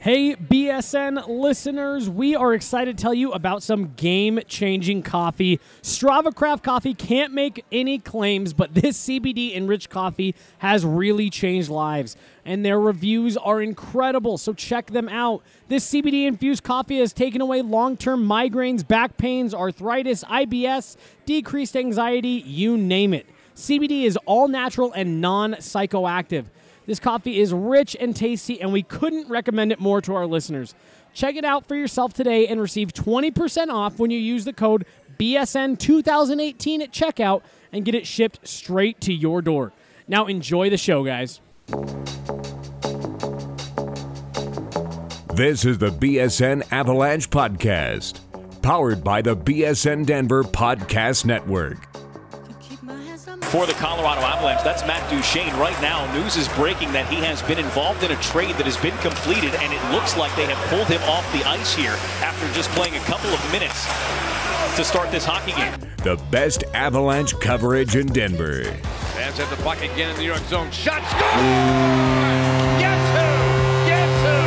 Hey, BSN listeners, we are excited to tell you about some game-changing coffee. Strava Craft Coffee can't make any claims, but this CBD-enriched coffee has really changed lives, and their reviews are incredible, so check them out. This CBD-infused coffee has taken away long-term migraines, back pains, arthritis, IBS, decreased anxiety, you name it. CBD is all natural and non-psychoactive. This coffee is rich and tasty, and we couldn't recommend it more to our listeners. Check it out for yourself today and receive 20% off when you use the code BSN2018 at checkout and get it shipped straight to your door. Now enjoy the show, guys. This is the BSN Avalanche Podcast, powered by the BSN Denver Podcast Network. For the Colorado Avalanche, that's Matt Duchene. Right now, news is breaking that he has been involved in a trade that has been completed, and it looks like they have pulled him off the ice here after just playing a couple of minutes to start this hockey game. The best Avalanche coverage in Denver. Fans at the puck again in the New York zone. Shot, score! Guess who? Guess who?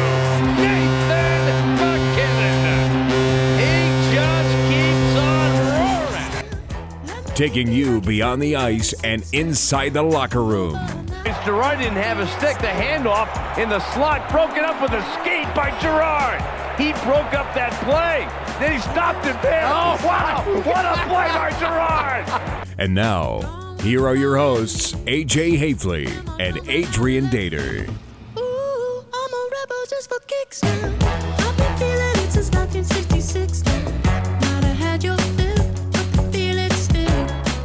Nathan MacKinnon. He just keeps on roaring. Taking you beyond the ice and inside the locker room. Girard didn't have a stick. The handoff in the slot, broken up with a skate by Girard. He broke up that play. Then he stopped it there. Oh, wow. What a play by Girard. And now, here are your hosts, AJ Hafley and Adrian Dater. Ooh, I'm a rebel just for kicks now. I've been feeling it since 1966 now. Might have had your fill, but feel it still.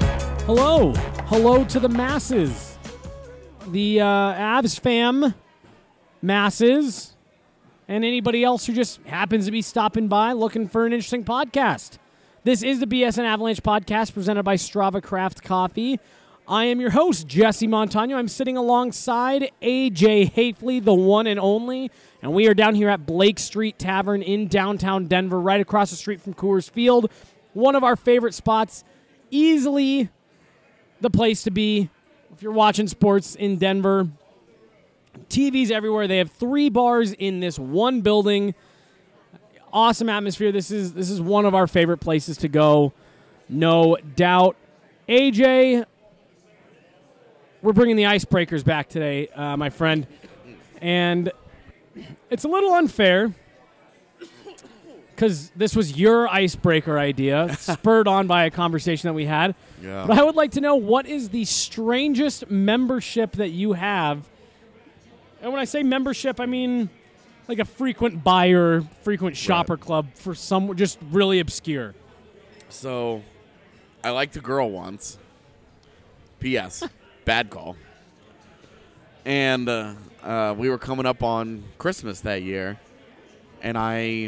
Hello to the masses. The Avs fam, masses, and anybody else who just happens to be stopping by looking for an interesting podcast. This is the BSN Avalanche Podcast presented by Strava Craft Coffee. I am your host, Jesse Montano. I'm sitting alongside AJ Hafley, the one and only, and we are down here at Blake Street Tavern in downtown Denver, right across the street from Coors Field. One of our favorite spots, easily the place to be if you're watching sports in Denver. TVs everywhere. They have 3 bars in this one building. Awesome atmosphere. This is one of our favorite places to go, no doubt. AJ, we're bringing the icebreakers back today, my friend, and it's a little unfair because this was your icebreaker idea, spurred on by a conversation that we had. Yeah. But I would like to know, what is the strangest membership that you have? And when I say membership, I mean like a frequent buyer, frequent shopper club for some just really obscure. So, I liked a girl once. P.S. Bad call. And we were coming up on Christmas that year, and I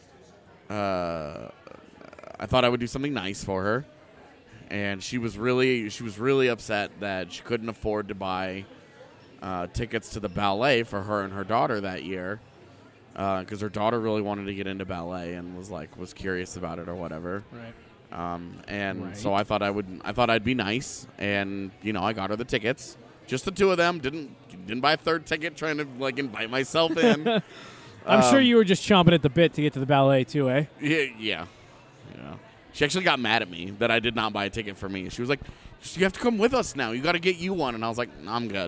thought I would do something nice for her, and she was really upset that she couldn't afford to buy tickets to the ballet for her and her daughter that year, because her daughter really wanted to get into ballet and was curious about it or whatever. Right. So I thought I'd be nice, and I got her the tickets, just the 2 of them. Didn't buy a third ticket, trying to invite myself in. I'm sure you were just chomping at the bit to get to the ballet too, eh? Yeah. She actually got mad at me that I did not buy a ticket for me. She was like, "You have to come with us now. You got to get you one." And I was like, "I'm good."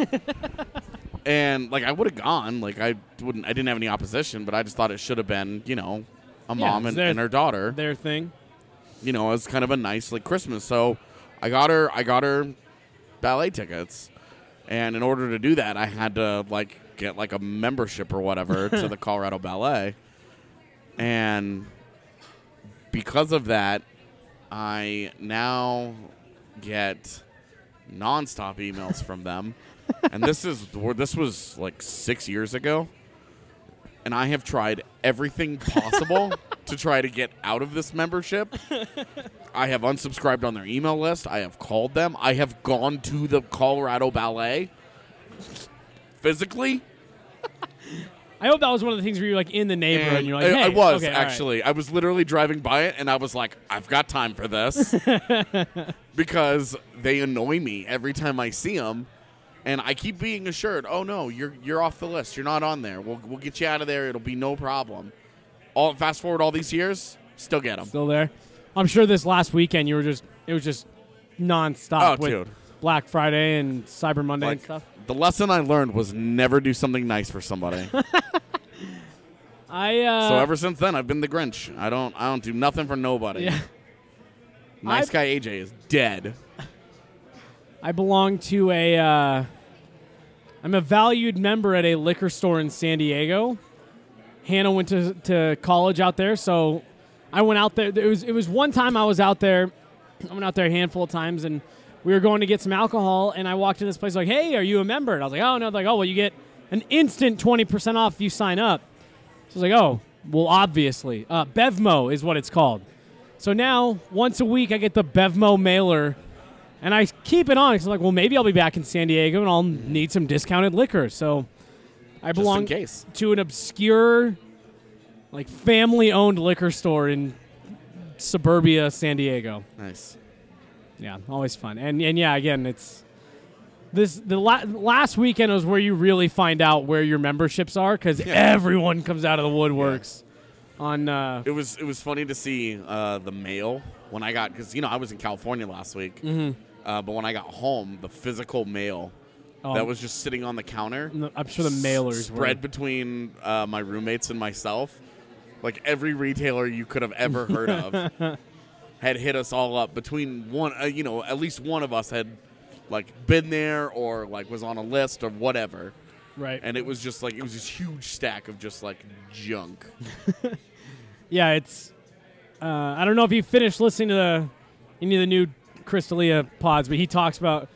And I would have gone. I didn't have any opposition, but I just thought it should have been, a mom and her daughter. Their thing. It was kind of a nice Christmas. So I got her ballet tickets, and in order to do that, I had to get a membership or whatever to the Colorado Ballet, and because of that, I now get nonstop emails from them, and this was 6 years ago, and I have tried everything possible to try to get out of this membership. I have unsubscribed on their email list. I have called them. I have gone to the Colorado Ballet physically. I hope that was one of the things where you're in the neighborhood and you're like, hey. I was, okay, actually. Right. I was literally driving by it, and I was like, I've got time for this. Because they annoy me every time I see them. And I keep being assured, oh no, you're off the list. You're not on there. We'll get you out of there. It'll be no problem. Fast forward all these years, still get them. Still there. I'm sure this last weekend it was just nonstop with dude. Black Friday and Cyber Monday and Like, stuff. the lesson I learned was never do something nice for somebody. So ever since then, I've been the Grinch. I don't do nothing for nobody. Yeah. Nice guy AJ is dead. I belong to I'm a valued member at a liquor store in San Diego. Hannah went to college out there, so I went out there. It was one time I was out there. I went out there a handful of times, and we were going to get some alcohol, and I walked in this place like, hey, are you a member? And I was like, oh, no. They're like, oh, well, you get an instant 20% off if you sign up. So I was like, oh, well, obviously. Bevmo is what it's called. So now, once a week, I get the Bevmo mailer, and I keep it on because I'm like, well, maybe I'll be back in San Diego, and I'll need some discounted liquor. So I belong in case. to an obscure, like, family-owned liquor store in suburbia San Diego. Nice. Yeah, always fun. And yeah, again, it's last weekend was where you really find out where your memberships are because everyone comes out of the woodworks. On it was funny to see the mail when I got, because I was in California last week, but when I got home, the physical mail that was just sitting on the counter. I'm sure the mailers spread between my roommates and myself. Like every retailer you could have ever heard of had hit us all up. Between one, at least one of us had like been there or like was on a list or whatever. Right. And it was just like, it was this huge stack of just like junk. Yeah, it's. I don't know if you finished listening to any of the new Chris D'Elia pods, but he talks about.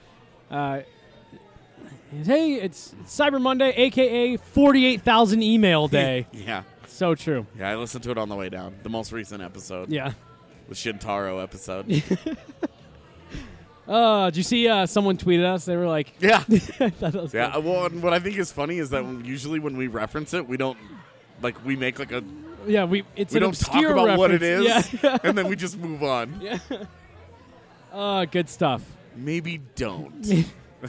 Hey, it's Cyber Monday, a.k.a. 48,000 email day. Yeah. So true. Yeah, I listened to it on the way down. The most recent episode. Yeah. The Shintaro episode. Did you see someone tweeted us? They were like, Yeah. that was Yeah. funny. Well, and what I think is funny is that usually when we reference it, we don't, like, we make like a, Yeah, it's we an don't talk obscure about what it reference. is, Yeah. and then we just move on. Yeah. Good stuff. Maybe don't.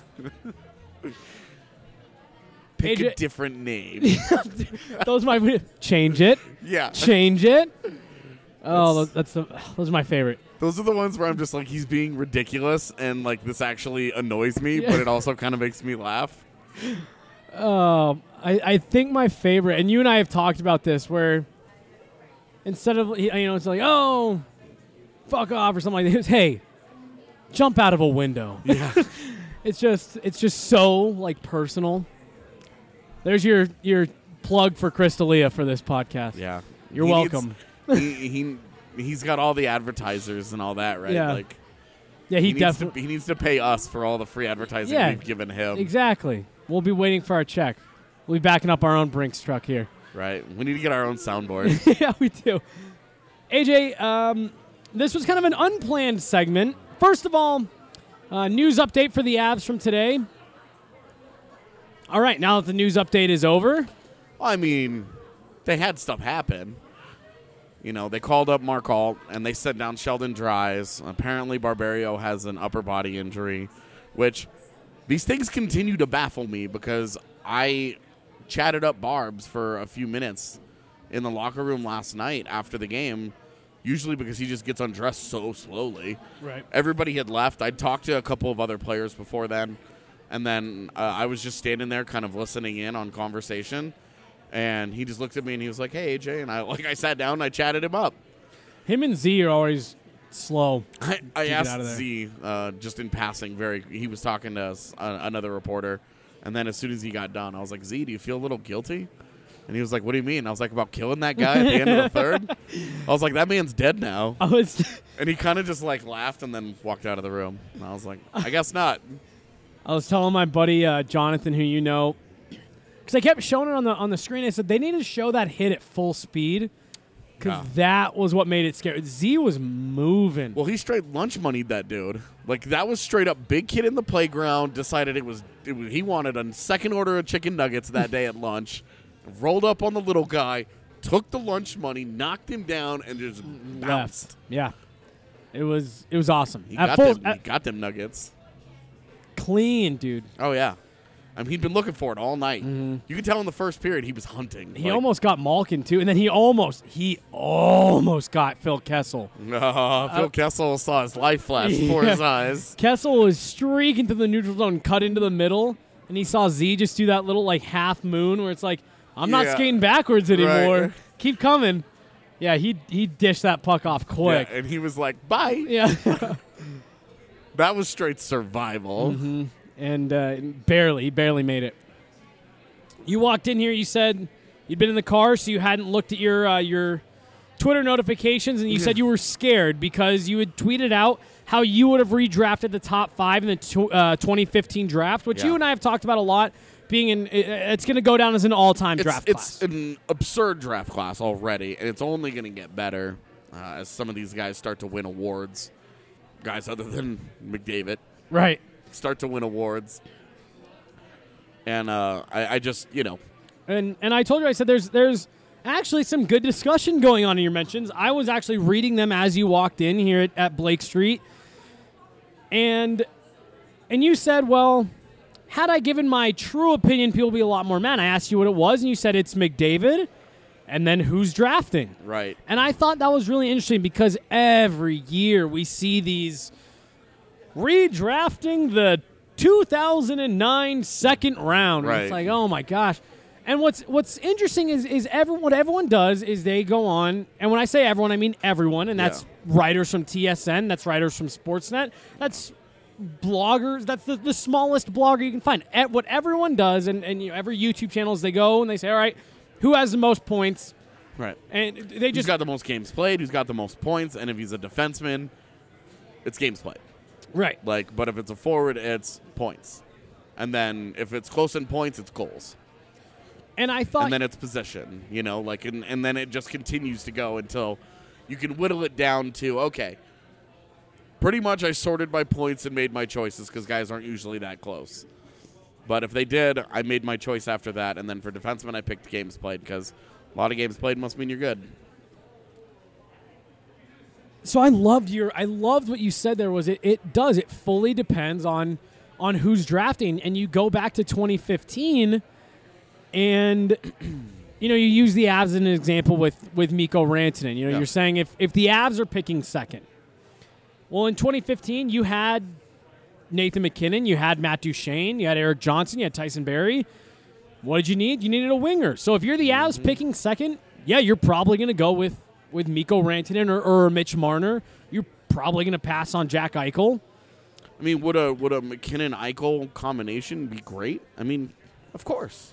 Pick a AJ different name. Those are my change it. Yeah. Change it. Oh, those are my favorite. Those are the ones where I'm just like, he's being ridiculous, and like this actually annoys me, but it also kind of makes me laugh. I think my favorite, and you and I have talked about this, where instead of it's like, oh, fuck off or something like that. It's, hey, jump out of a window. Yeah. It's just so like personal. There's your plug for Chris D'Elia for this podcast. Yeah. You're welcome. He's got all the advertisers and all that, right? Yeah. Like, Yeah, he definitely. he needs to pay us for all the free advertising we've given him. Exactly. We'll be waiting for our check. We'll be backing up our own Brinks truck here. Right. We need to get our own soundboard. Yeah, we do. AJ, this was kind of an unplanned segment. First of all, news update for the Avs from today. All right, now that the news update is over. I mean, they had stuff happen. They called up Mark Alt, and they sent down Sheldon Dries. Apparently, Barberio has an upper body injury, which these things continue to baffle me because I chatted up Barbs for a few minutes in the locker room last night after the game, usually because he just gets undressed so slowly. Right. Everybody had left. I'd talked to a couple of other players before then, and then I was just standing there kind of listening in on conversation. And he just looked at me and he was like, "Hey, AJ," and I sat down and I chatted him up. Him and Z are always slow. I get out asked of there. Z just in passing. He was talking to us, another reporter, and then as soon as he got done, I was like, "Z, do you feel a little guilty?" And he was like, "What do you mean?" And I was like, "About killing that guy at the end of the third." I was like, "That man's dead now." And he kind of just like laughed and then walked out of the room. And I was like, "I guess not." I was telling my buddy Jonathan, who you know, because I kept showing it on the screen. I said they need to show that hit at full speed because that was what made it scary. Z was moving. Well, he straight lunch moneyed that dude. Like, that was straight up big kid in the playground, decided he wanted a second order of chicken nuggets that day at lunch, rolled up on the little guy, took the lunch money, knocked him down, and just bounced. Yeah. It was awesome. He got them nuggets. Clean, dude. Oh, yeah. I mean, he'd been looking for it all night. You could tell in the first period he was hunting. He almost got Malkin, too, and then he almost got Phil Kessel. Phil Kessel saw his life flash before his eyes. Kessel was streaking to the neutral zone, cut into the middle, and he saw Z just do that little, like, half moon where it's like, I'm not skating backwards anymore. Right. Keep coming. Yeah, he dished that puck off quick. Yeah, and he was like, bye. Yeah. That was straight survival. Mm-hmm. And barely made it. You walked in here, you said you'd been in the car, so you hadn't looked at your Twitter notifications, and you said you were scared because you had tweeted out how you would have redrafted the top 5 in the 2015 draft, which you and I have talked about a lot, it's going to go down as an all-time draft class. It's an absurd draft class already, and it's only going to get better as some of these guys start to win awards. Guys other than McDavid. Right. Start to win awards. And I just, And I told you, I said there's actually some good discussion going on in your mentions. I was actually reading them as you walked in here at Blake Street. And you said, well, had I given my true opinion, people would be a lot more mad. I asked you what it was, and you said it's McDavid, and then who's drafting. Right. And I thought that was really interesting because every year we see these redrafting the 2009 second round. Right. It's like, oh my gosh. And what's interesting is what everyone does is they go on, and when I say everyone, I mean everyone, and that's writers from TSN, that's writers from Sportsnet, that's bloggers, that's the smallest blogger you can find. What everyone does, and every YouTube channel is they go and they say, all right, who has the most points? Right. And they who's just got the most games played, who's got the most points, and if he's a defenseman, it's games played. Right. But if it's a forward, it's points. And then if it's close in points, it's goals. And I thought, and then it's position, and then it just continues to go until you can whittle it down to, okay, pretty much I sorted by points and made my choices because guys aren't usually that close. But if they did, I made my choice after that. And then for defensemen, I picked games played because a lot of games played must mean you're good. So I loved what you said there was it fully depends on who's drafting. And you go back to 2015 and you use the Avs as an example with Mikko Rantanen. You're saying if the Avs are picking second. Well, in 2015 you had Nathan McKinnon, you had Matt Duchene, you had Eric Johnson, you had Tyson Barrie. What did you need? You needed a winger. So if you're the Avs picking second, you're probably going to go with Mikko Rantanen or Mitch Marner. You're probably going to pass on Jack Eichel. I mean, would a McKinnon-Eichel combination be great? I mean, of course.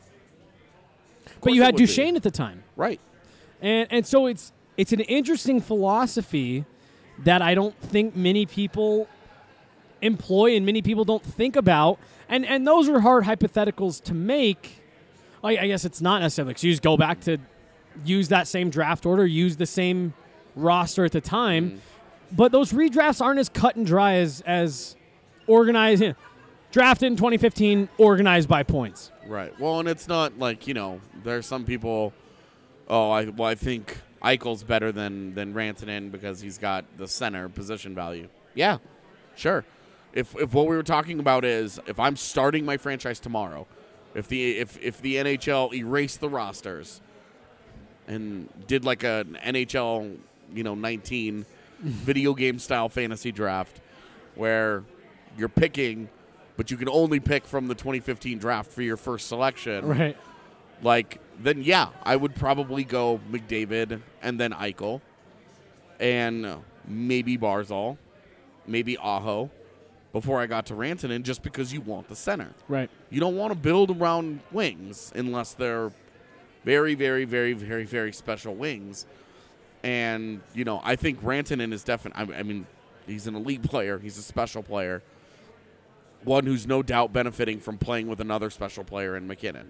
But you had Duchene at the time. Right. And so it's an interesting philosophy that I don't think many people employ and many people don't think about. And those are hard hypotheticals to make. I guess it's not necessarily because you just go back to use that same draft order, use the same roster at the time. But those redrafts aren't as cut and dry as organized. Drafted in 2015, organized by points. Right. Well, and it's not like, there's some people, I think Eichel's better than Rantanen because he's got the center position value. Yeah, sure. If what we were talking about is if I'm starting my franchise tomorrow, if the NHL erased the rosters and did like an NHL, 19 video game style fantasy draft where you're picking, but you can only pick from the 2015 draft for your first selection. Right. Then I would probably go McDavid and then Eichel and maybe Barzal, maybe Aho before I got to Rantanen just because you want the center. Right. You don't want to build around wings unless they're very, very, very, very, very special wings. And, I think Rantanen is definitely, I mean, he's an elite player. He's a special player. One who's no doubt benefiting from playing with another special player in McKinnon.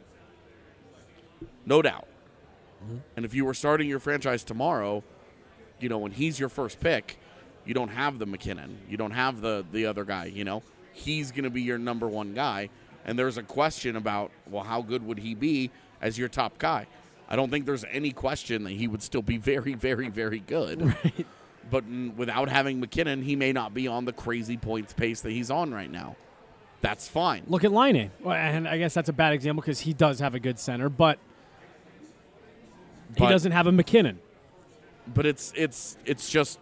No doubt. Mm-hmm. And if you were starting your franchise tomorrow, when he's your first pick, you don't have the McKinnon. You don't have the other guy, He's going to be your number one guy. And there's a question about, well, how good would he be as your top guy? I don't think there's any question that he would still be very, very, very good. Right. But without having McKinnon, he may not be on the crazy points pace that he's on right now. that's fine. Look at Laine. Well, and I guess that's a bad example because he does have a good center, but he doesn't have a McKinnon. But it's just,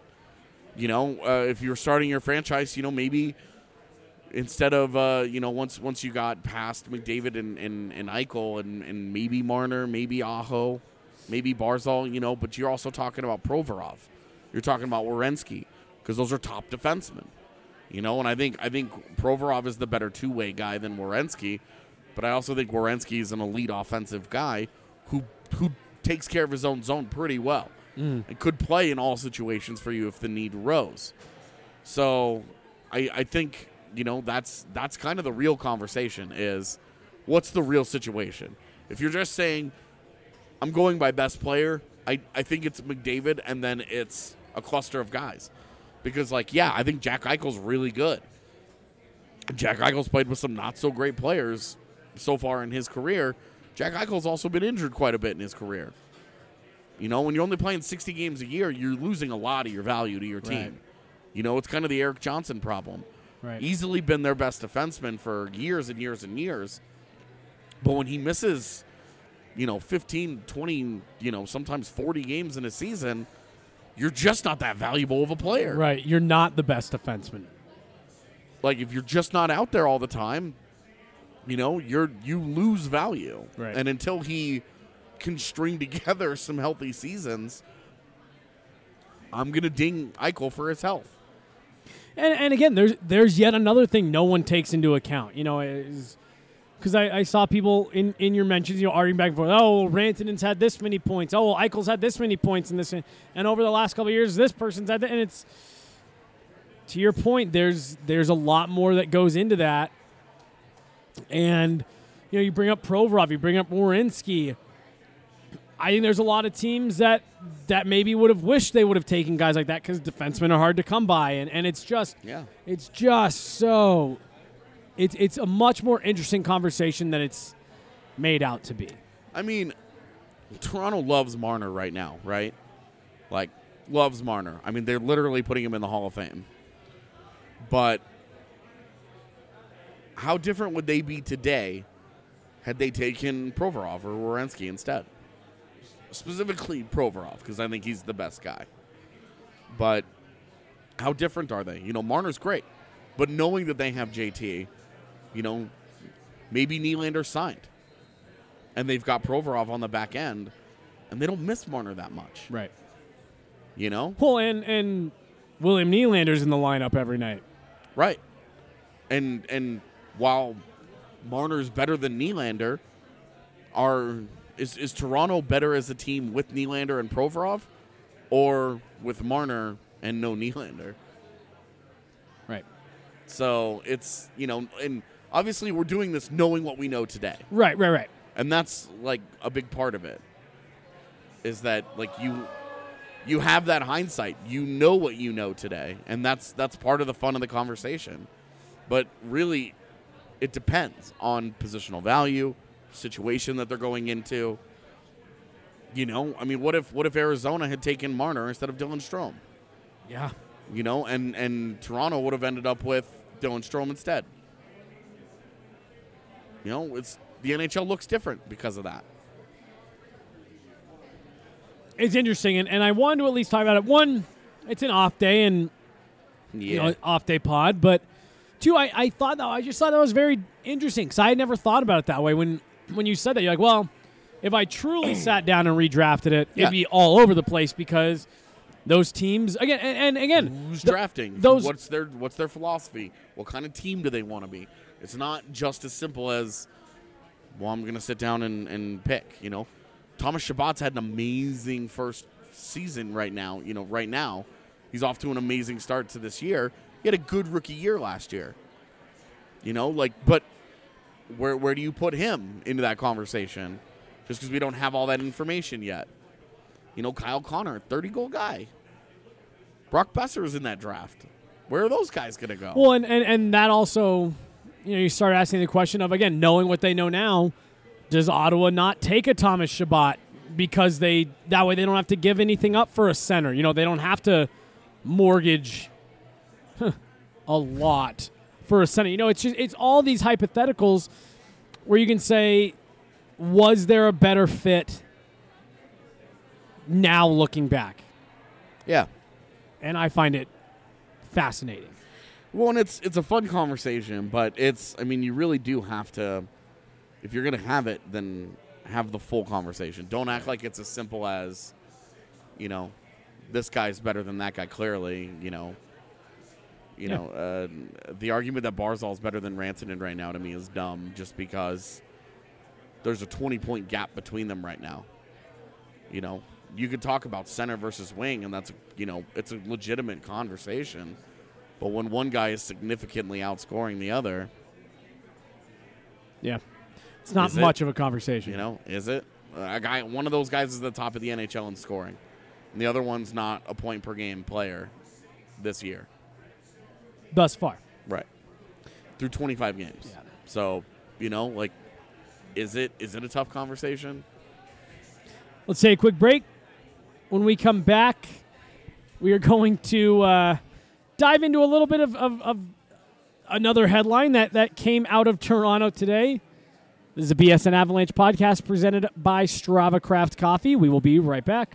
if you're starting your franchise, maybe instead of, once you got past McDavid and Eichel and maybe Marner, maybe Aho, maybe Barzal, but you're also talking about Provorov. You're talking about Werenski because those are top defensemen. And I think Provorov is the better two-way guy than Werenski, but I also think Werenski is an elite offensive guy who takes care of his own zone pretty well and could play in all situations for you if the need arose. So I think, that's kind of the real conversation is what's the real situation? If you're just saying I'm going by best player, I think it's McDavid and then it's a cluster of guys. Because, I think Jack Eichel's really good. Jack Eichel's played with some not-so-great players so far in his career. Jack Eichel's also been injured quite a bit in his career. When you're only playing 60 games a year, you're losing a lot of your value to your team. Right. It's kind of the Eric Johnson problem. Right. Easily been their best defenseman for years and years and years. But when he misses, 15, 20, sometimes 40 games in a season, you're just not that valuable of a player. Right. You're not the best defenseman. If you're just not out there all the time, you lose value. Right. And until he can string together some healthy seasons, I'm going to ding Eichel for his health. And again, there's yet another thing no one takes into account. Because I saw people in your mentions, arguing back and forth. Oh, Rantanen's had this many points. Oh, Eichel's had this many points in this. And over the last couple of years, this person's had that. And it's, to your point, there's a lot more that goes into that. And, you bring up Provorov, you bring up Werenski. I think there's a lot of teams that maybe would have wished they would have taken guys like that because defensemen are hard to come by. And it's just, it's just so... It's a much more interesting conversation than it's made out to be. I mean, Toronto loves Marner right now, right? Loves Marner. I mean, they're literally putting him in the Hall of Fame. But how different would they be today had they taken Provorov or Werenski instead? Specifically Provorov, because I think he's the best guy. But how different are they? Marner's great. But knowing that they have JT... maybe Nylander signed. And they've got Provorov on the back end, and they don't miss Marner that much. Right. Well, and William Nylander's in the lineup every night. Right. And while Marner's better than Nylander, is Toronto better as a team with Nylander and Provorov or with Marner and no Nylander? Right. So it's, and obviously we're doing this knowing what we know today. Right. And that's a big part of it is that you have that hindsight. You know what you know today, and that's part of the fun of the conversation. But really it depends on positional value, situation that they're going into. I mean, what if Arizona had taken Marner instead of Dylan Strome? Yeah. And Toronto would have ended up with Dylan Strome instead. It's the NHL looks different because of that. It's interesting, and I wanted to at least talk about it. One, it's an off day, and off day pod. But two, I just thought that was very interesting because I had never thought about it that way. When you said that, you're like, well, if I truly sat down and redrafted it, it'd be all over the place because those teams again and again. Who's drafting? What's their philosophy? What kind of team do they want to be? It's not just as simple as, well, I'm going to sit down and pick. Thomas Chabot's had an amazing first season right now. Right now, he's off to an amazing start to this year. He had a good rookie year last year. But where do you put him into that conversation? Just because we don't have all that information yet. Kyle Connor, 30-goal guy. Brock Besser is in that draft. Where are those guys going to go? Well, and that also, you start asking the question of, again, knowing what they know now, does Ottawa not take a Thomas Chabot because that way they don't have to give anything up for a center? They don't have to mortgage a lot for a center. It's all these hypotheticals where you can say, was there a better fit now looking back? Yeah. And I find it fascinating. Well, and it's a fun conversation, but you really do have to, if you're going to have it, then have the full conversation. Don't act like it's as simple as, this guy's better than that guy, clearly, the argument that Barzal's better than Rantanen right now to me is dumb just because there's a 20-point gap between them right now. You could talk about center versus wing, and that's, it's a legitimate conversation. But when one guy is significantly outscoring the other, yeah, it's not much of a conversation. Is it? One of those guys is at the top of the NHL in scoring, and the other one's not a point per game player this year. Thus far, right? Through 25 games. Yeah. So, is it a tough conversation? Let's take a quick break. When we come back, we are going to dive into a little bit of another headline that came out of Toronto today. This is a BSN Avalanche podcast presented by Strava Craft Coffee. We will be right back.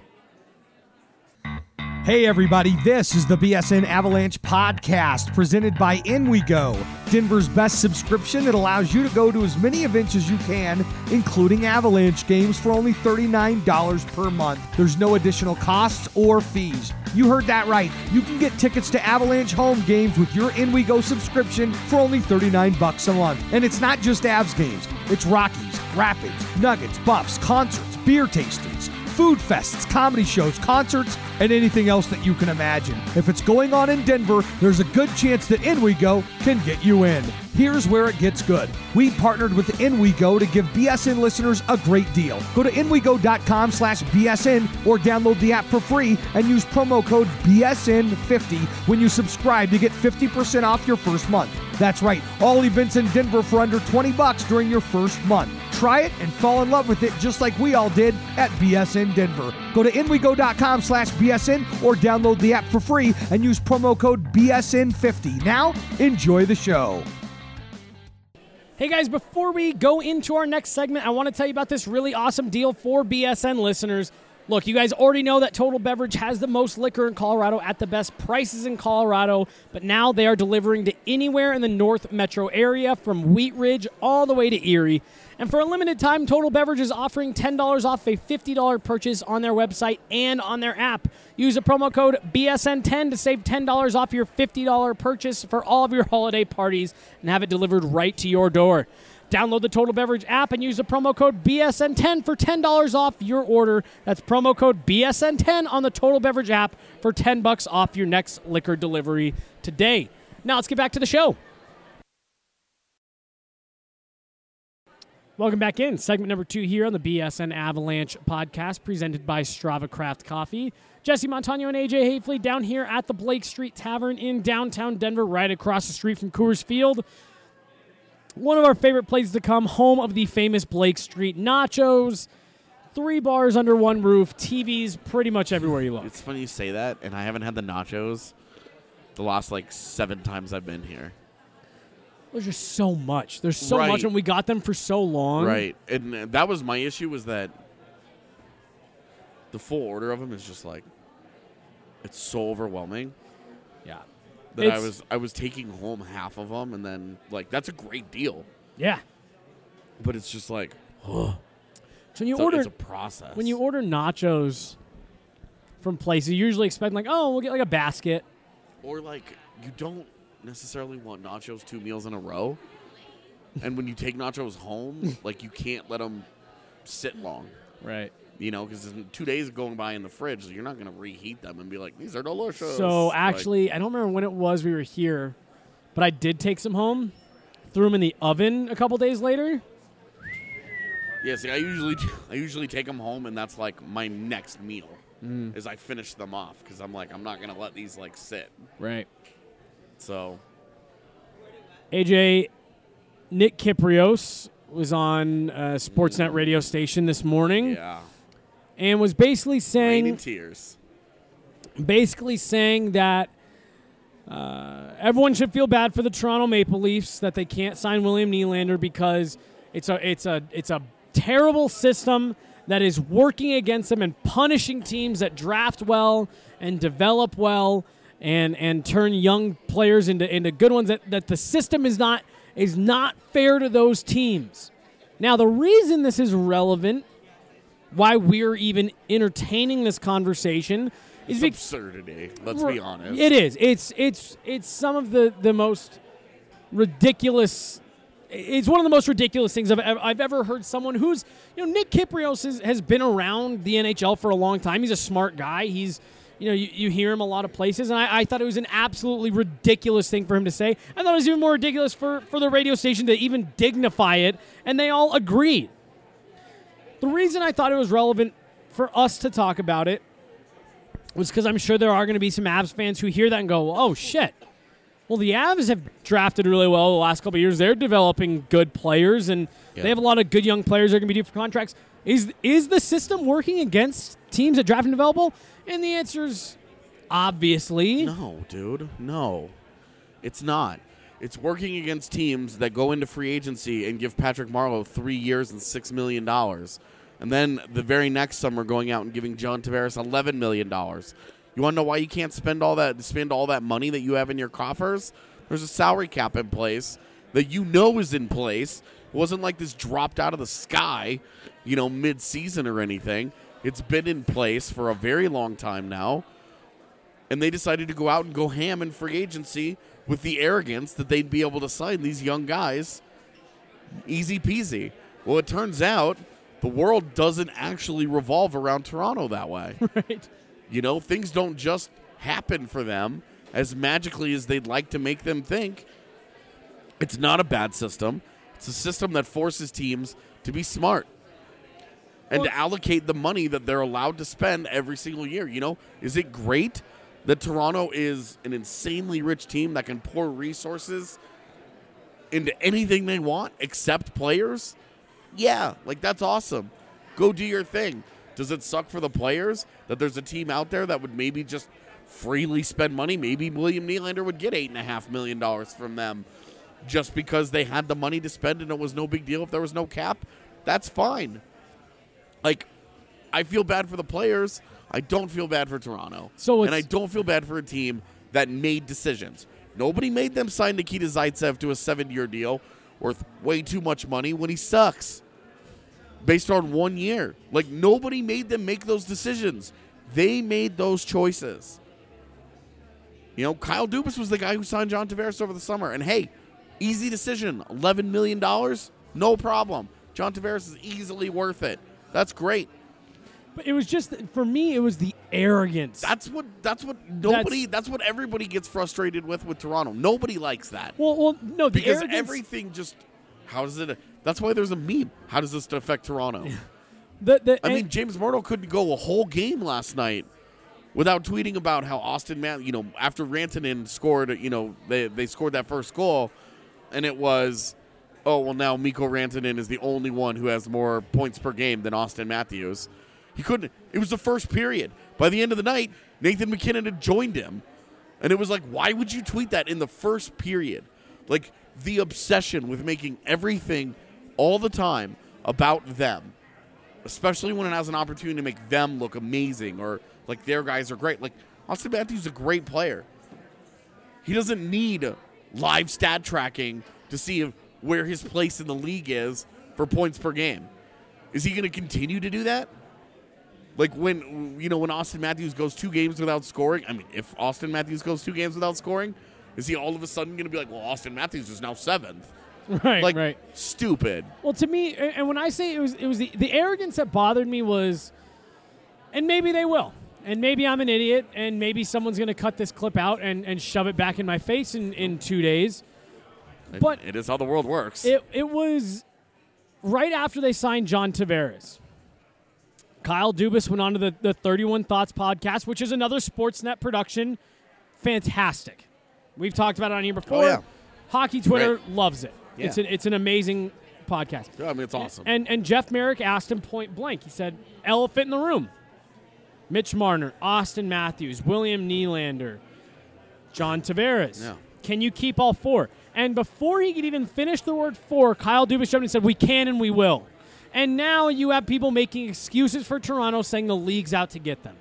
Hey everybody, this is the BSN Avalanche podcast presented by In We Go, Denver's best subscription that allows you to go to as many events as you can, including Avalanche games for only $39 per month. There's no additional costs or fees. You heard that right. You can get tickets to Avalanche home games with your In We Go subscription for only $39 a month. And it's not just Avs games. It's Rockies, Rapids, Nuggets, Buffs, concerts, beer tastings, food fests, comedy shows, concerts, and anything else that you can imagine. If it's going on in Denver, there's a good chance that In We Go can get you in. Here's where it gets good. We partnered with In We Go to give BSN listeners a great deal. Go to inwego.com/BSN or download the app for free and use promo code BSN50 when you subscribe to get 50% off your first month. That's right, all events in Denver for under $20 during your first month. Try it and fall in love with it just like we all did at BSN Denver. Go to inwego.com/BSN or download the app for free and use promo code BSN50. Now, enjoy the show. Hey guys, before we go into our next segment, I want to tell you about this really awesome deal for BSN listeners. Look, you guys already know that Total Beverage has the most liquor in Colorado at the best prices in Colorado, but now they are delivering to anywhere in the North Metro area from Wheat Ridge all the way to Erie. And for a limited time, Total Beverage is offering $10 off a $50 purchase on their website and on their app. Use the promo code BSN10 to save $10 off your $50 purchase for all of your holiday parties and have it delivered right to your door. Download the Total Beverage app and use the promo code BSN10 for $10 off your order. That's promo code BSN10 on the Total Beverage app for $10 off your next liquor delivery today. Now let's get back to the show. Welcome back in. Segment number 2 here on the BSN Avalanche podcast presented by Strava Craft Coffee. Jesse Montano and AJ Hafley down here at the Blake Street Tavern in downtown Denver, right across the street from Coors Field. One of our favorite places to come, home of the famous Blake Street nachos. 3 bars under one roof, TVs pretty much everywhere you look. It's funny you say that, and I haven't had the nachos the last 7 times I've been here. There's just so much. There's so much, and we got them for so long. Right, and that was my issue, was that the full order of them is just it's so overwhelming. Yeah. That I was taking home half of them, and then that's a great deal. Yeah. But it's just so when you order, it's a process. When you order nachos from places, you usually expect we'll get a basket. Or you don't necessarily want nachos 2 meals in a row. And when you take nachos home, you can't let them sit long. Right. Because 2 days going by in the fridge, so you're not going to reheat them and be like, these are delicious. So actually, I don't remember when it was we were here, but I did take some home, threw them in the oven a couple days later. Yeah, see, I usually take them home, and that's my next meal, is I finish them off, because I'm I'm not going to let these sit. Right. So. AJ, Nick Kyprios was on a Sportsnet radio station this morning. Yeah. And was basically Rain saying in tears. Basically saying that Everyone should feel bad for the Toronto Maple Leafs that they can't sign William Nylander because it's a terrible system that is working against them and punishing teams that draft well and develop well and turn young players into good ones. That the system is not fair to those teams. Now, the reason this is relevant, why we're even entertaining this conversation, is It's absurdity. Let's be honest. It is. It's some of the most ridiculous. It's one of the most ridiculous things I've ever heard someone who's, Nick Kypreos has been around the NHL for a long time. He's a smart guy. He's, you hear him a lot of places, and I thought it was an absolutely ridiculous thing for him to say. I thought it was even more ridiculous for the radio station to even dignify it, and they all agreed. The reason I thought it was relevant for us to talk about it was because I'm sure there are going to be some Avs fans who hear that and go, oh, shit. Well, the Avs have drafted really well the last couple of years. They're developing good players, and they have a lot of good young players that are going to be due for contracts. Is the system working against teams that draft and develop? And the answer is obviously. No, dude. No. It's not. It's working against teams that go into free agency and give Patrick Marleau 3 years and $6 million. And then the very next summer going out and giving John Tavares $11 million. You want to know why you can't spend all that money that you have in your coffers? There's a salary cap in place that is in place. It wasn't like this dropped out of the sky, mid-season or anything. It's been in place for a very long time now. And they decided to go out and go ham in free agency with the arrogance that they'd be able to sign these young guys easy peasy. Well, it turns out the world doesn't actually revolve around Toronto that way. Right. Things don't just happen for them as magically as they'd like to make them think. It's not a bad system. It's a system that forces teams to be smart and to allocate the money that they're allowed to spend every single year. Is it great that Toronto is an insanely rich team that can pour resources into anything they want except players? Yeah, that's awesome. Go do your thing. Does it suck for the players that there's a team out there that would maybe just freely spend money? Maybe William Nylander would get $8.5 million from them just because they had the money to spend and it was no big deal if there was no cap. That's fine. I feel bad for the players. I don't feel bad for Toronto. And I don't feel bad for a team that made decisions. Nobody made them sign Nikita Zaitsev to a 7-year deal worth way too much money when he sucks based on 1 year. Nobody made them make those decisions. They made those choices. Kyle Dubas was the guy who signed John Tavares over the summer. And, hey, easy decision. $11 million, no problem. John Tavares is easily worth it. That's great. But it was just, for me, it was the arrogance. That's what everybody gets frustrated with Toronto. Nobody likes that. Well, no, the because arrogance, everything just, how does it? That's why there's a meme. How does this affect Toronto? James Murdoch couldn't go a whole game last night without tweeting about how Austin Matthews, after Rantanen scored, they scored that first goal, and it was, oh, well, now Mikko Rantanen is the only one who has more points per game than Austin Matthews. He couldn't. It was the first period. By the end of the night, Nathan McKinnon had joined him. And it was like, why would you tweet that in the first period? The obsession with making everything all the time about them, especially when it has an opportunity to make them look amazing or their guys are great. Austin Matthews is a great player. He doesn't need live stat tracking to see where his place in the league is for points per game. Is he going to continue to do that? When Austin Matthews goes 2 games without scoring, if Austin Matthews goes 2 games without scoring, is he all of a sudden going to be like, well, Austin Matthews is now 7th? Right. Stupid. Well, to me, and when I say it was the arrogance that bothered me was, and maybe they will, and maybe I'm an idiot, and maybe someone's going to cut this clip out and shove it back in my face in 2 days. But it is how the world works. It was right after they signed John Tavares. Kyle Dubas went on to the 31 Thoughts podcast, which is another Sportsnet production. Fantastic. We've talked about it on here before. Oh, yeah. Hockey Twitter loves it. Yeah. It's an amazing podcast. Yeah, it's awesome. And Jeff Merrick asked him point blank. He said, elephant in the room. Mitch Marner, Austin Matthews, William Nylander. John Tavares. Yeah. Can you keep all 4? And before he could even finish the word 4, Kyle Dubas jumped and said, we can and we will. And now you have people making excuses for Toronto, saying the league's out to get them.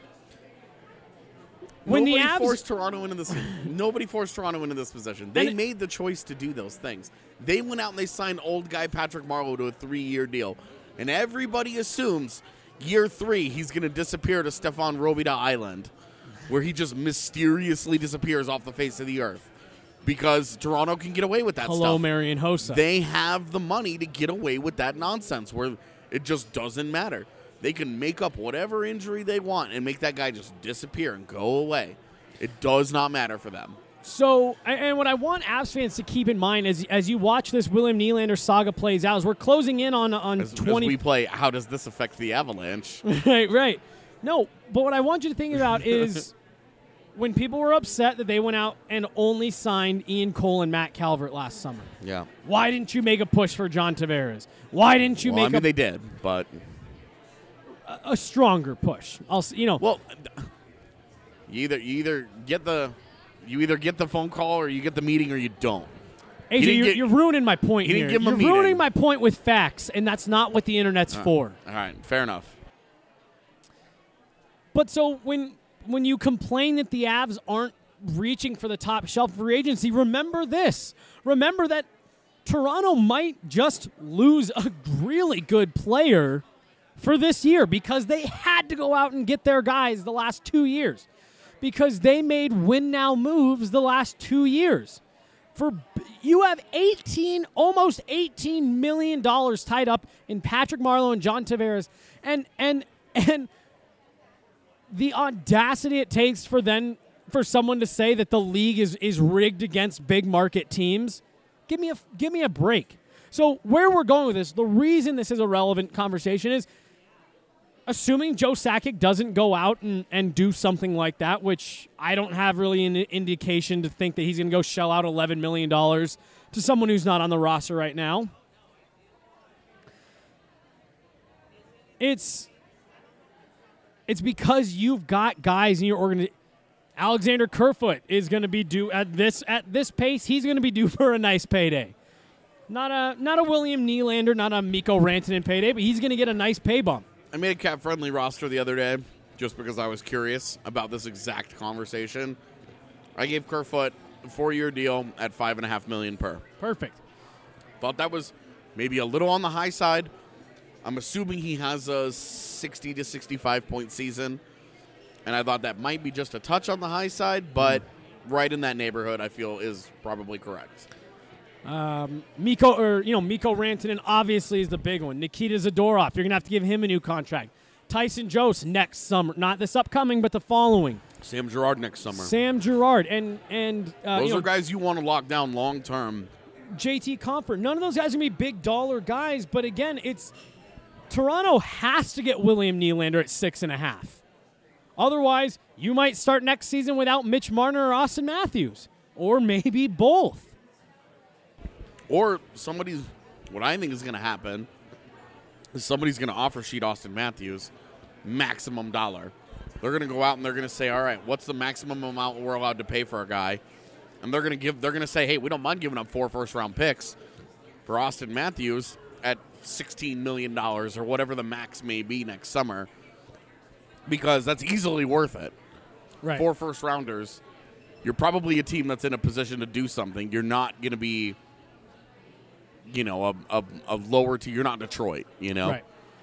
Nobody forced Toronto into this. Nobody forced Toronto into this position. They made the choice to do those things. They went out and they signed old guy Patrick Marleau to a 3-year deal, and everybody assumes year 3 he's going to disappear to Stefan Robida Island, where he just mysteriously disappears off the face of the earth because Toronto can get away with that stuff. Hello, Marian Hossa. They have the money to get away with that nonsense where it just doesn't matter. They can make up whatever injury they want and make that guy just disappear and go away. It does not matter for them. So, and what I want Avs fans to keep in mind as you watch this William Nylander saga plays out, is we're closing in on 20. As we play, how does this affect the Avalanche? Right. No, but what I want you to think about is when people were upset that they went out and only signed Ian Cole and Matt Calvert last summer. Yeah. Why didn't you make a push for John Tavares? Why didn't you make they did, but a stronger push? Well, you either get the phone call or you get the meeting or you don't. AJ, you're ruining my point he here. Didn't give him You're a ruining meeting. my point with facts, and that's not what the internet's for. All right, fair enough. But so when you complain that the Avs aren't reaching for the top shelf free agency, remember this. Remember that Toronto might just lose a really good player for this year because they had to go out and get their guys the last 2 years because they made win-now moves the last 2 years. You have almost $18 million tied up in Patrick Marleau and John Tavares, and the audacity it takes for someone to say that the league is rigged against big market teams. Give me a break. So where we're going with this, the reason this is a relevant conversation is assuming Joe Sakic doesn't go out and do something like that, which I don't have really an indication to think that he's going to go shell out $11 million to someone who's not on the roster right now. It's because you've got guys in your organization. Alexander Kerfoot is going to be due at this pace. He's going to be due for a nice payday. Not a William Nylander, not a Mikko Rantanen payday, but he's going to get a nice pay bump. I made a cap-friendly roster the other day just because I was curious about this exact conversation. I gave Kerfoot a 4-year deal at $5.5 million per. Perfect. Thought that was maybe a little on the high side. I'm assuming he has a 60 to 65 point season, and I thought that might be just a touch on the high side, but right in that neighborhood, I feel is probably correct. Mikko Rantanen obviously is the big one. Nikita Zadorov, you're going to have to give him a new contract. Tyson Jost next summer, not this upcoming, but the following. Sam Girard next summer. Sam Girard and those are guys you want to lock down long term. JT Compher. None of those guys are going to be big dollar guys, but again, it's Toronto has to get William Nylander at 6.5. Otherwise, you might start next season without Mitch Marner or Austin Matthews, or maybe both. Or what I think is going to happen is somebody's going to offer sheet Austin Matthews maximum dollar. They're going to go out and they're going to say, all right, what's the maximum amount we're allowed to pay for a guy? And they're going to say, hey, we don't mind giving up 4 first-round picks for Austin Matthews at $16 million or whatever the max may be next summer, because that's easily worth it. Right. 4 first-rounders. You're probably a team that's in a position to do something. You're not going to be, a lower tier. You're not Detroit, Right.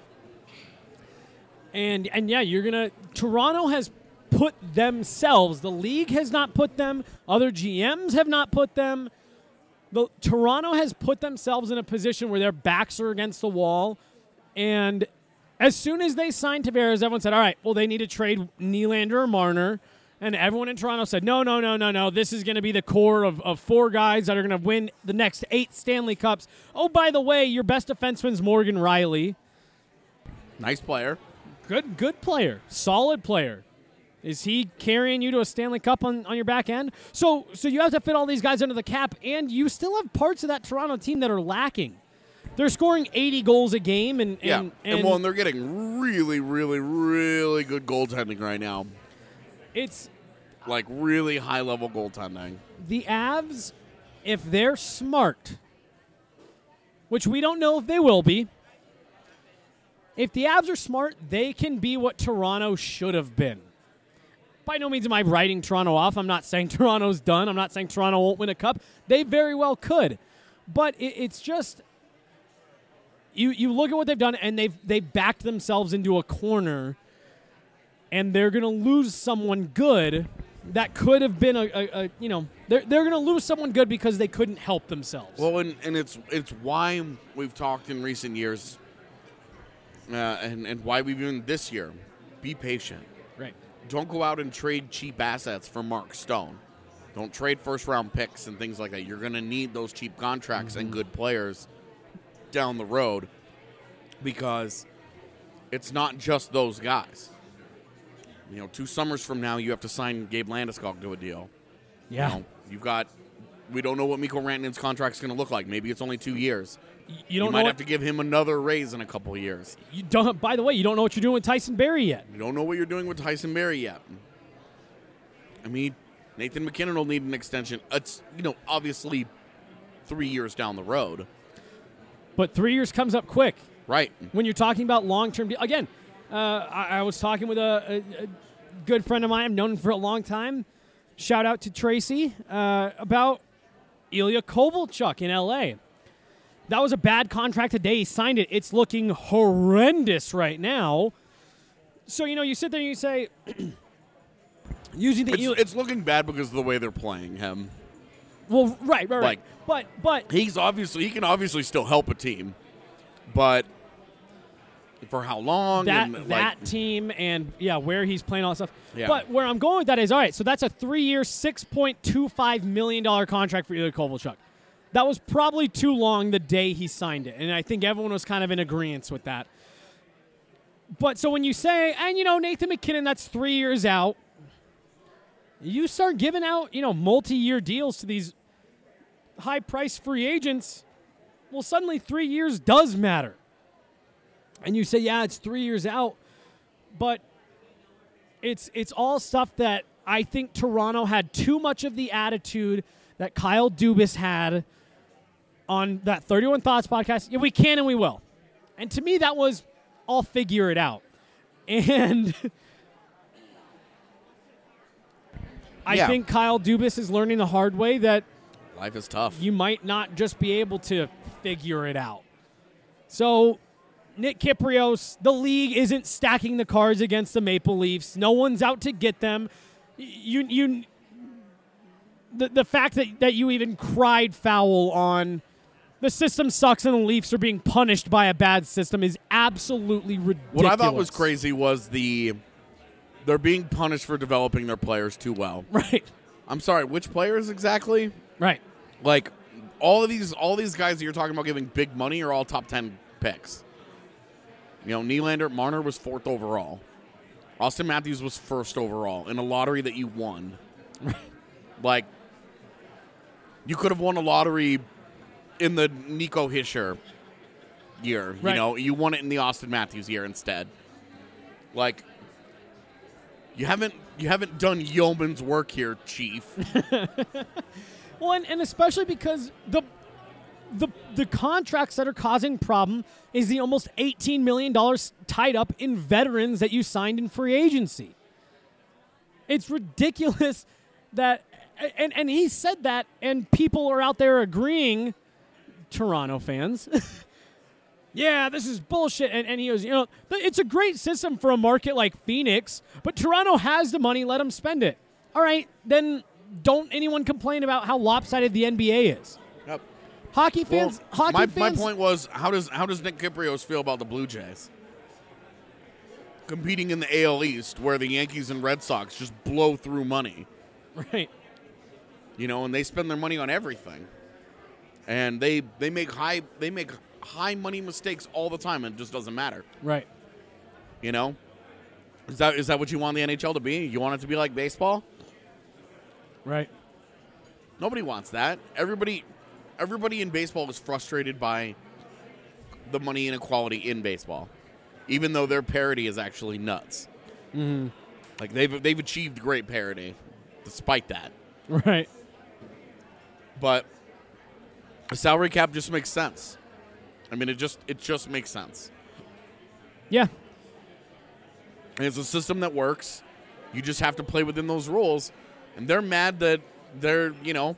And yeah, Toronto has put themselves, the league has not put them, other GMs have not put them. Toronto has put themselves in a position where their backs are against the wall, and as soon as they signed Tavares, everyone said, all right, well, they need to trade Nylander or Marner. And everyone in Toronto said, no. This is going to be the core of 4 guys that are going to win the next 8 Stanley Cups. Oh, by the way, your best defenseman's Morgan Riley. Nice player. Good player. Solid player. Is he carrying you to a Stanley Cup on your back end? So you have to fit all these guys under the cap, and you still have parts of that Toronto team that are lacking. They're scoring 80 goals a game. And they're getting really, really, really good goaltending right now. like really high-level goaltending. The Avs, if they're smart, which we don't know if they will be, if the Avs are smart, they can be what Toronto should have been. By no means am I writing Toronto off. I'm not saying Toronto's done. I'm not saying Toronto won't win a cup. They very well could. But it's just, you look at what they've done, and they've backed themselves into a corner, and they're going to lose someone good that could have been they're going to lose someone good because they couldn't help themselves. Well, and it's why we've talked in recent years, and why we've even this year, be patient. Right. Don't go out and trade cheap assets for Mark Stone. Don't trade first-round picks and things like that. You're going to need those cheap contracts and good players down the road because it's not just those guys. 2 summers from now, you have to sign Gabe Landeskog to a deal. Yeah. We don't know what Mikko Rantanen's contract's going to look like. Maybe it's only 2 years. You might have to give him another raise in a couple of years. You don't. By the way, you don't know what you're doing with Tyson Barrie yet. You don't know what you're doing with Tyson Barrie yet. I mean, Nathan McKinnon will need an extension. It's, obviously 3 years down the road. But 3 years comes up quick. Right. When you're talking about long-term deals. Again, I was talking with a good friend of mine. I've known him for a long time. Shout out to Tracy about Ilya Kovalchuk in L.A. That was a bad contract today. He signed it. It's looking horrendous right now. So, you sit there and you say, using the it's looking bad because of the way they're playing him. Well, right. But he can obviously still help a team, but for how long? That team and where he's playing, all that stuff. Yeah. But where I'm going with that is, all right, so that's a 3-year, $6.25 million contract for Ilya Kovalchuk. That was probably too long the day he signed it, and I think everyone was kind of in agreement with that. But so when you say, and Nathan McKinnon, that's 3 years out, you start giving out, multi-year deals to these high-priced free agents, well, suddenly 3 years does matter. And you say, it's 3 years out, but it's all stuff that I think Toronto had too much of the attitude that Kyle Dubas had on that 31 Thoughts podcast. Yeah, we can and we will. And to me, that was, I'll figure it out. And I think Kyle Dubas is learning the hard way that life is tough. You might not just be able to figure it out. So, Nick Kypreos, the league isn't stacking the cards against the Maple Leafs. No one's out to get them. The fact that you even cried foul on the system sucks and the Leafs are being punished by a bad system is absolutely ridiculous. What I thought was crazy was they're being punished for developing their players too well. Right. I'm sorry, which players exactly? Right. Like all these guys that you're talking about giving big money are all top 10 picks. Nylander, Marner was 4th overall. Austin Matthews was 1st overall in a lottery that you won. Like, you could have won a lottery in the Nico Hischier year. Right. You won it in the Austin Matthews year instead. Like, you haven't done yeoman's work here, Chief. Well, and especially because the contracts that are causing problem is the almost $18 million tied up in veterans that you signed in free agency. It's ridiculous that, and he said that, and people are out there agreeing, Toronto fans, yeah, this is bullshit. And he goes, it's a great system for a market like Phoenix, but Toronto has the money, let them spend it. All right, then don't anyone complain about how lopsided the NBA is. Yep. Hockey fans. My point was, how does Nick Kypreos feel about the Blue Jays competing in the AL East, where the Yankees and Red Sox just blow through money, right? And they spend their money on everything, and they make high money mistakes all the time, and it just doesn't matter, right? Is that what you want the NHL to be? You want it to be like baseball, right? Nobody wants that. Everybody in baseball is frustrated by the money inequality in baseball, even though their parity is actually nuts. Mm-hmm. Like they've achieved great parity despite that. Right. But the salary cap just makes sense. I mean, it just makes sense. Yeah. And it's a system that works. You just have to play within those rules. And they're mad that they're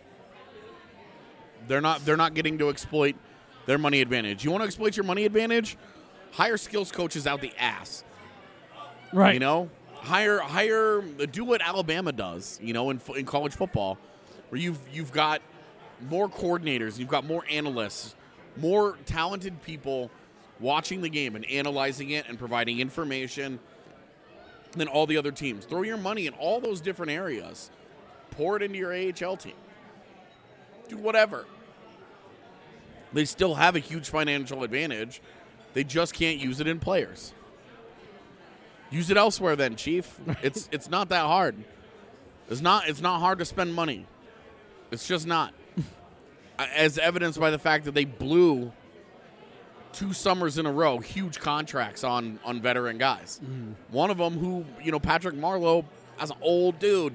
not getting to exploit their money advantage. You want to exploit your money advantage? Hire skills coaches out the ass. Right. You know? Hire do what Alabama does, in college football, where you've got more coordinators, you've got more analysts, more talented people watching the game and analyzing it and providing information than all the other teams. Throw your money in all those different areas. Pour it into your AHL team. Do whatever. They still have a huge financial advantage. They just can't use it in players. Use it elsewhere then, Chief. It's not that hard. It's not hard to spend money. It's just not. As evidenced by the fact that they blew 2 summers in a row huge contracts on veteran guys. One of them who, Patrick Marleau, as an old dude.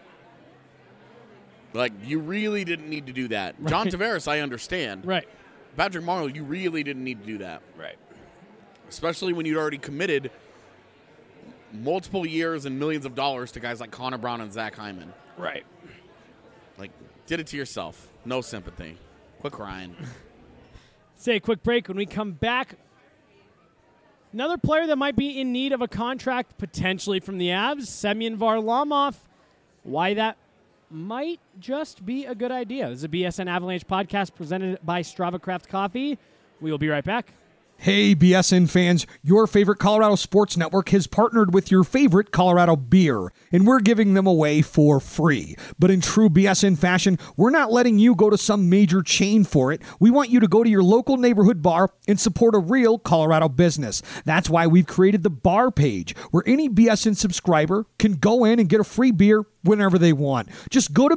Like, you really didn't need to do that. Right. John Tavares, I understand. Right. Patrick Marleau, you really didn't need to do that. Right. Especially when you'd already committed multiple years and millions of dollars to guys like Connor Brown and Zach Hyman. Right. Like, did it to yourself. No sympathy. Quit crying. Say a quick break. When we come back, another player that might be in need of a contract potentially from the Avs, Semyon Varlamov. Why that might just be a good idea. This is a BSN Avalanche podcast presented by Strava Craft Coffee. We will be right back. Hey, BSN fans, your favorite Colorado Sports Network has partnered with your favorite Colorado beer, and we're giving them away for free. But in true BSN fashion, we're not letting you go to some major chain for it. We want you to go to your local neighborhood bar and support a real Colorado business. That's why we've created the bar page, where any BSN subscriber can go in and get a free beer whenever they want. Just go to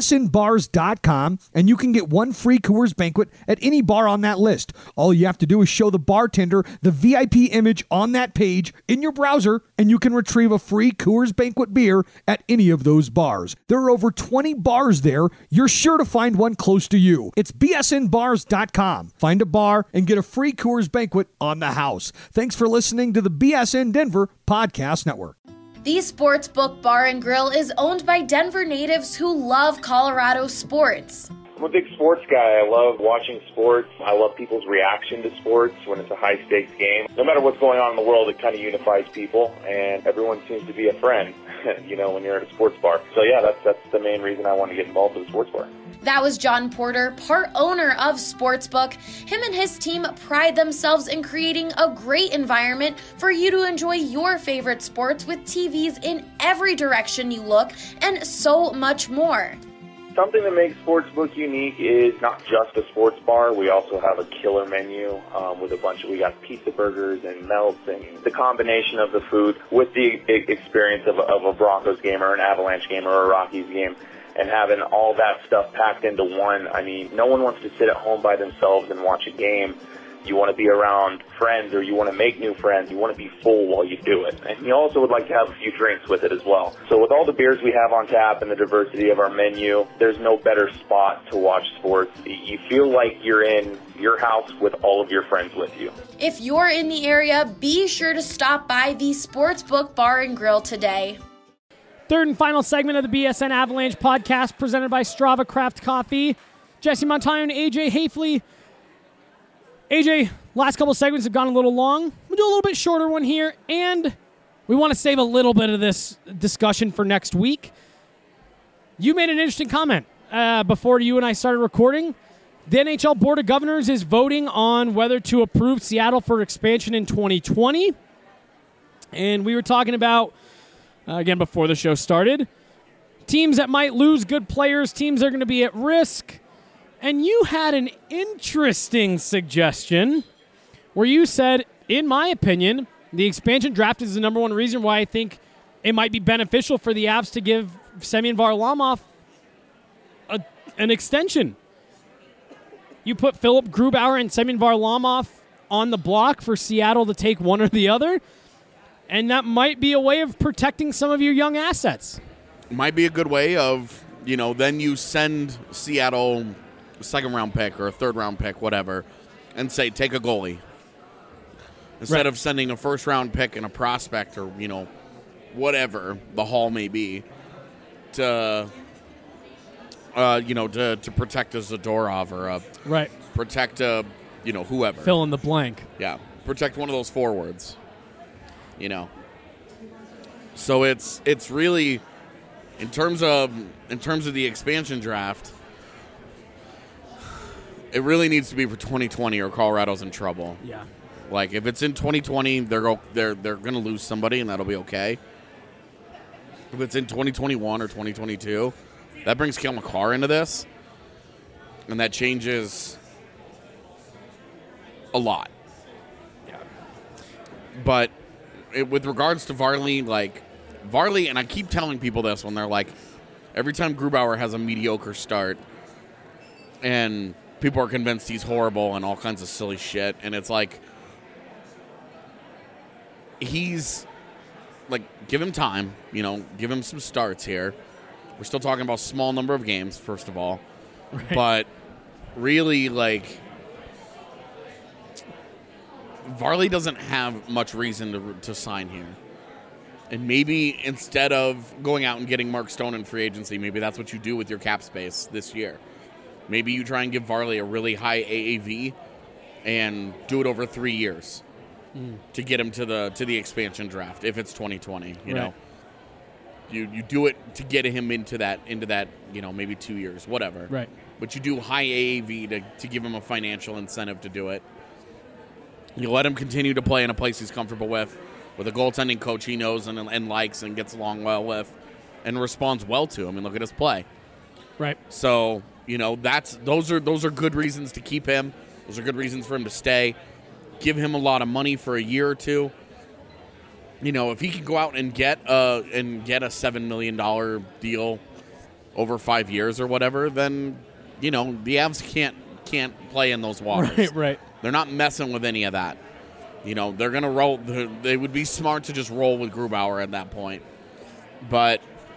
bsnbars.com and you can get 1 free Coors Banquet at any bar on that list. All you have to do is show the bartender the VIP image on that page in your browser and you can retrieve a free Coors Banquet beer at any of those bars. There are over 20 bars there. You're sure to find one close to you. It's bsnbars.com. Find a bar and get a free Coors Banquet on the house. Thanks for listening to the BSN Denver Podcast Network. The Sportsbook Bar and Grill is owned by Denver natives who love Colorado sports. I'm a big sports guy. I love watching sports. I love people's reaction to sports when it's a high-stakes game. No matter what's going on in the world, it kind of unifies people, and everyone seems to be a friend, when you're at a sports bar. So, yeah, that's the main reason I want to get involved with the sports bar. That was John Porter, part owner of Sportsbook. Him and his team pride themselves in creating a great environment for you to enjoy your favorite sports with TVs in every direction you look and so much more. Something that makes Sportsbook unique is not just a sports bar. We also have a killer menu with we got pizza burgers and melts, and the combination of the food with the experience of a Broncos game or an Avalanche game or a Rockies game. And having all that stuff packed into one, I mean, no one wants to sit at home by themselves and watch a game. You want to be around friends or you want to make new friends. You want to be full while you do it. And you also would like to have a few drinks with it as well. So with all the beers we have on tap and the diversity of our menu, there's no better spot to watch sports. You feel like you're in your house with all of your friends with you. If you're in the area, be sure to stop by the Sportsbook Bar and Grill today. Third and final segment of the BSN Avalanche podcast presented by Strava Craft Coffee. Jesse Montano and AJ Hafley. AJ, last couple segments have gone a little long. We'll do a little bit shorter one here, and we want to save a little bit of this discussion for next week. You made an interesting comment before you and I started recording. The NHL Board of Governors is voting on whether to approve Seattle for expansion in 2020. And we were talking about again, before the show started, teams that might lose good players, teams that are going to be at risk. And you had an interesting suggestion where you said, in my opinion, the expansion draft is the number one reason why I think it might be beneficial for the Avs to give Semyon Varlamov an extension. You put Philip Grubauer and Semyon Varlamov on the block for Seattle to take one or the other. And that might be a way of protecting some of your young assets. might be a good way of, then you send Seattle a second-round pick or a third-round pick, whatever, and say, take a goalie. Instead of sending a first-round pick and a prospect or, whatever the haul may be to protect a Zadorov or protect a, whoever. Fill in the blank. Yeah, protect one of those forwards. So it's really in terms of the expansion draft, it really needs to be for 2020 or Colorado's in trouble. Yeah. Like if it's in 2020, they're going to lose somebody and that'll be okay. If it's in 2021 or 2022, that brings Cale Makar into this, and that changes a lot. Yeah. But with regards to Varley, and I keep telling people this when they're like, every time Grubauer has a mediocre start, and people are convinced he's horrible and all kinds of silly shit, and it's like, he's like, give him time, give him some starts here. We're still talking about small number of games, first of all, but really, Varley doesn't have much reason to sign here. And maybe instead of going out and getting Mark Stone in free agency, maybe that's what you do with your cap space this year. Maybe you try and give Varley a really high AAV and do it over 3 years to get him to the expansion draft if it's 2020. You know, you do it to get him into that maybe 2 years, whatever. Right. But you do high AAV to give him a financial incentive to do it. You let him continue to play in a place he's comfortable with a goaltending coach he knows and likes and gets along well with, and responds well to him. And look at his play. Right. So those are good reasons to keep him. Those are good reasons for him to stay. Give him a lot of money for a year or two. If he can go out and get a $7 million deal over 5 years or whatever, then the Avs can't play in those waters. Right. They're not messing with any of that. They're going to roll. They would be smart to just roll with Grubauer at that point. But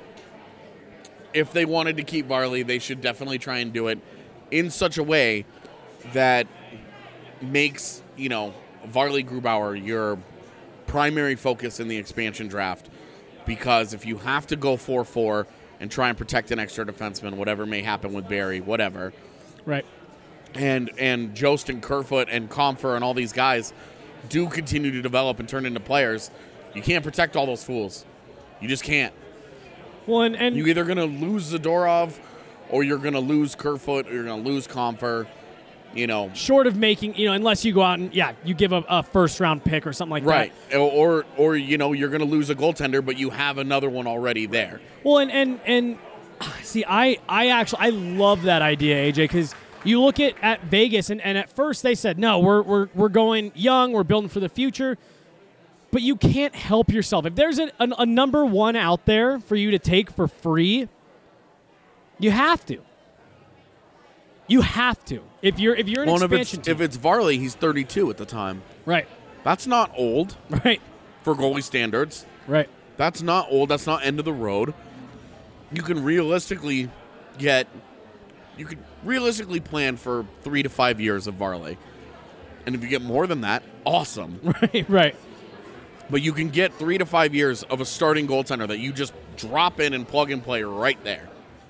if they wanted to keep Varley, they should definitely try and do it in such a way that makes, Varley Grubauer your primary focus in the expansion draft. Because if you have to go 4-4 and try and protect an extra defenseman, whatever may happen with Barry, whatever. Right. And Jost and Kerfoot and Comfer and all these guys do continue to develop and turn into players, you can't protect all those fools. You just can't. Well, and you're either going to lose Zadorov or you're going to lose Kerfoot or you're going to lose Comfer. Short of making, unless you go out and, you give a first-round pick or something like that. Right. Or you're going to lose a goaltender, but you have another one already there. Well, and see, I love that idea, AJ, because you look at Vegas, and at first they said, no, we're going young, we're building for the future. But you can't help yourself. If there's a number one out there for you to take for free, you have to. You have to. If you're an expansion team. If it's Varley, he's 32 at the time. Right. That's not old. Right. For goalie standards. Right. That's not old. That's not end of the road. You can realistically plan for 3 to 5 years of Varley. And if you get more than that, awesome. Right. But you can get 3 to 5 years of a starting goaltender that you just drop in and plug and play right there.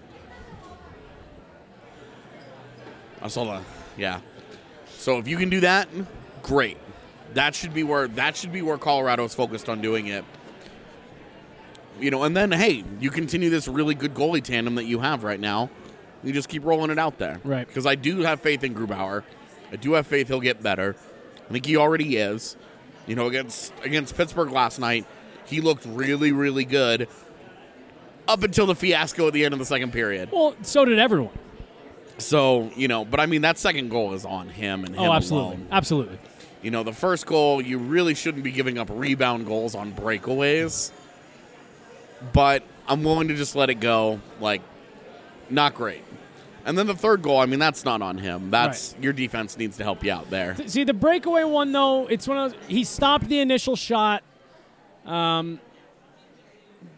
I saw that. Yeah. So if you can do that, great. That should be where Colorado is focused on doing it. And then hey, you continue this really good goalie tandem that you have right now. You just keep rolling it out there. Right. Because I do have faith in Grubauer. I do have faith he'll get better. I think he already is. Against Pittsburgh last night, he looked really, really good up until the fiasco at the end of the second period. Well, so did everyone. So, but I mean, that second goal is on him and him alone. Absolutely. The first goal, you really shouldn't be giving up rebound goals on breakaways. But I'm willing to just let it go. Not great. And then the third goal, I mean, that's not on him. That's your defense needs to help you out there. See, the breakaway one, though, it's one of those, he stopped the initial shot.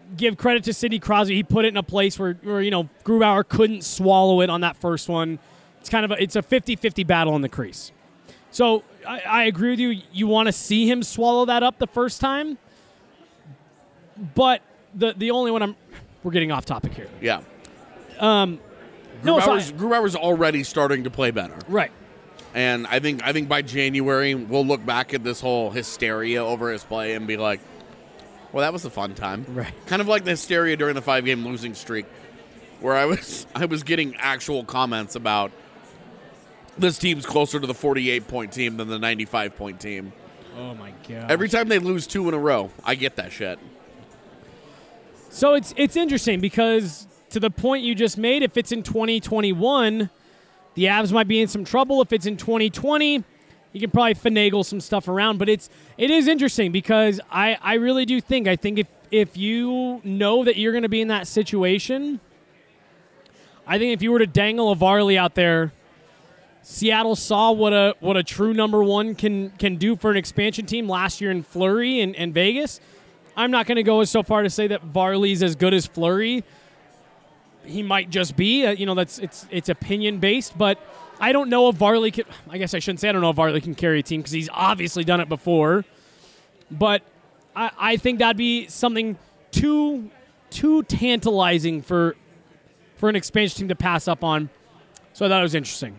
give credit to Sidney Crosby. He put it in a place where Grubauer couldn't swallow it on that first one. It's kind of it's a 50-50 battle in the crease. So I agree with you. You want to see him swallow that up the first time. But the only one we're getting off topic here. Yeah. Grubauer's already starting to play better. Right. And I think by January we'll look back at this whole hysteria over his play and be like, well, that was a fun time. Right. Kind of like the hysteria during the 5-game losing streak, where I was getting actual comments about this team's closer to the 48-point team than the 95-point team. Oh my god! Every time they lose 2 in a row, I get that shit. So it's interesting because to the point you just made, if it's in 2021, the Avs might be in some trouble. If it's in 2020, you can probably finagle some stuff around. But it is interesting because I really do think if you know that you're going to be in that situation, I think if you were to dangle a Varley out there, Seattle saw what a true number one can do for an expansion team last year in Fleury and Vegas. I'm not going to go so far to say that Varley's as good as Fleury. He might just be. It's opinion based, but I don't know if Varley can. I guess I shouldn't say I don't know if Varley can carry a team because he's obviously done it before. But I think that'd be something too tantalizing for an expansion team to pass up on. So I thought it was interesting.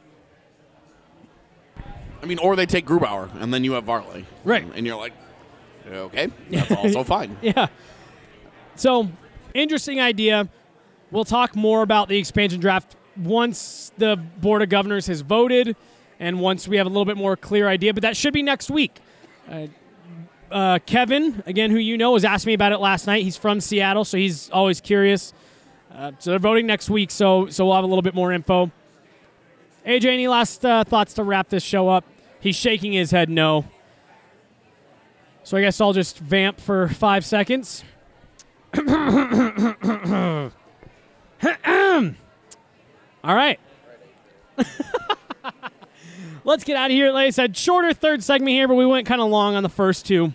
I mean, or they take Grubauer and then you have Varley, right? And you're like, okay, that's also fine. Yeah. So interesting idea. We'll talk more about the expansion draft once the Board of Governors has voted and once we have a little bit more clear idea, but that should be next week. Kevin, again, who you know, was asking me about it last night. He's from Seattle, so he's always curious. So they're voting next week, so we'll have a little bit more info. AJ, any last thoughts to wrap this show up? He's shaking his head no. So I guess I'll just vamp for 5 seconds. All right. Let's get out of here. Like I said, shorter third segment here, but we went kind of long on the first two.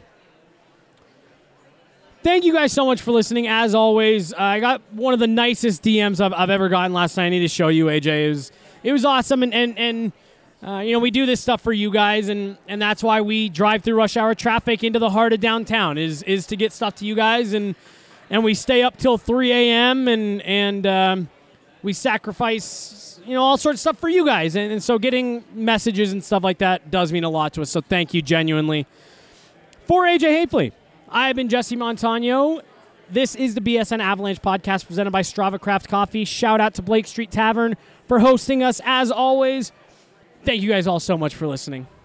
Thank you guys so much for listening. As always, I got one of the nicest DMs I've ever gotten last night. I need to show you, AJ. It was awesome, and we do this stuff for you guys, and that's why we drive through rush hour traffic into the heart of downtown is to get stuff to you guys, and we stay up till 3 a.m. and we sacrifice all sorts of stuff for you guys, and so getting messages and stuff like that does mean a lot to us. So thank you genuinely. For AJ Hafley, I have been Jesse Montano. This is the BSN Avalanche podcast presented by Strava Craft Coffee. Shout out to Blake Street Tavern for hosting us as always. Thank you guys all so much for listening.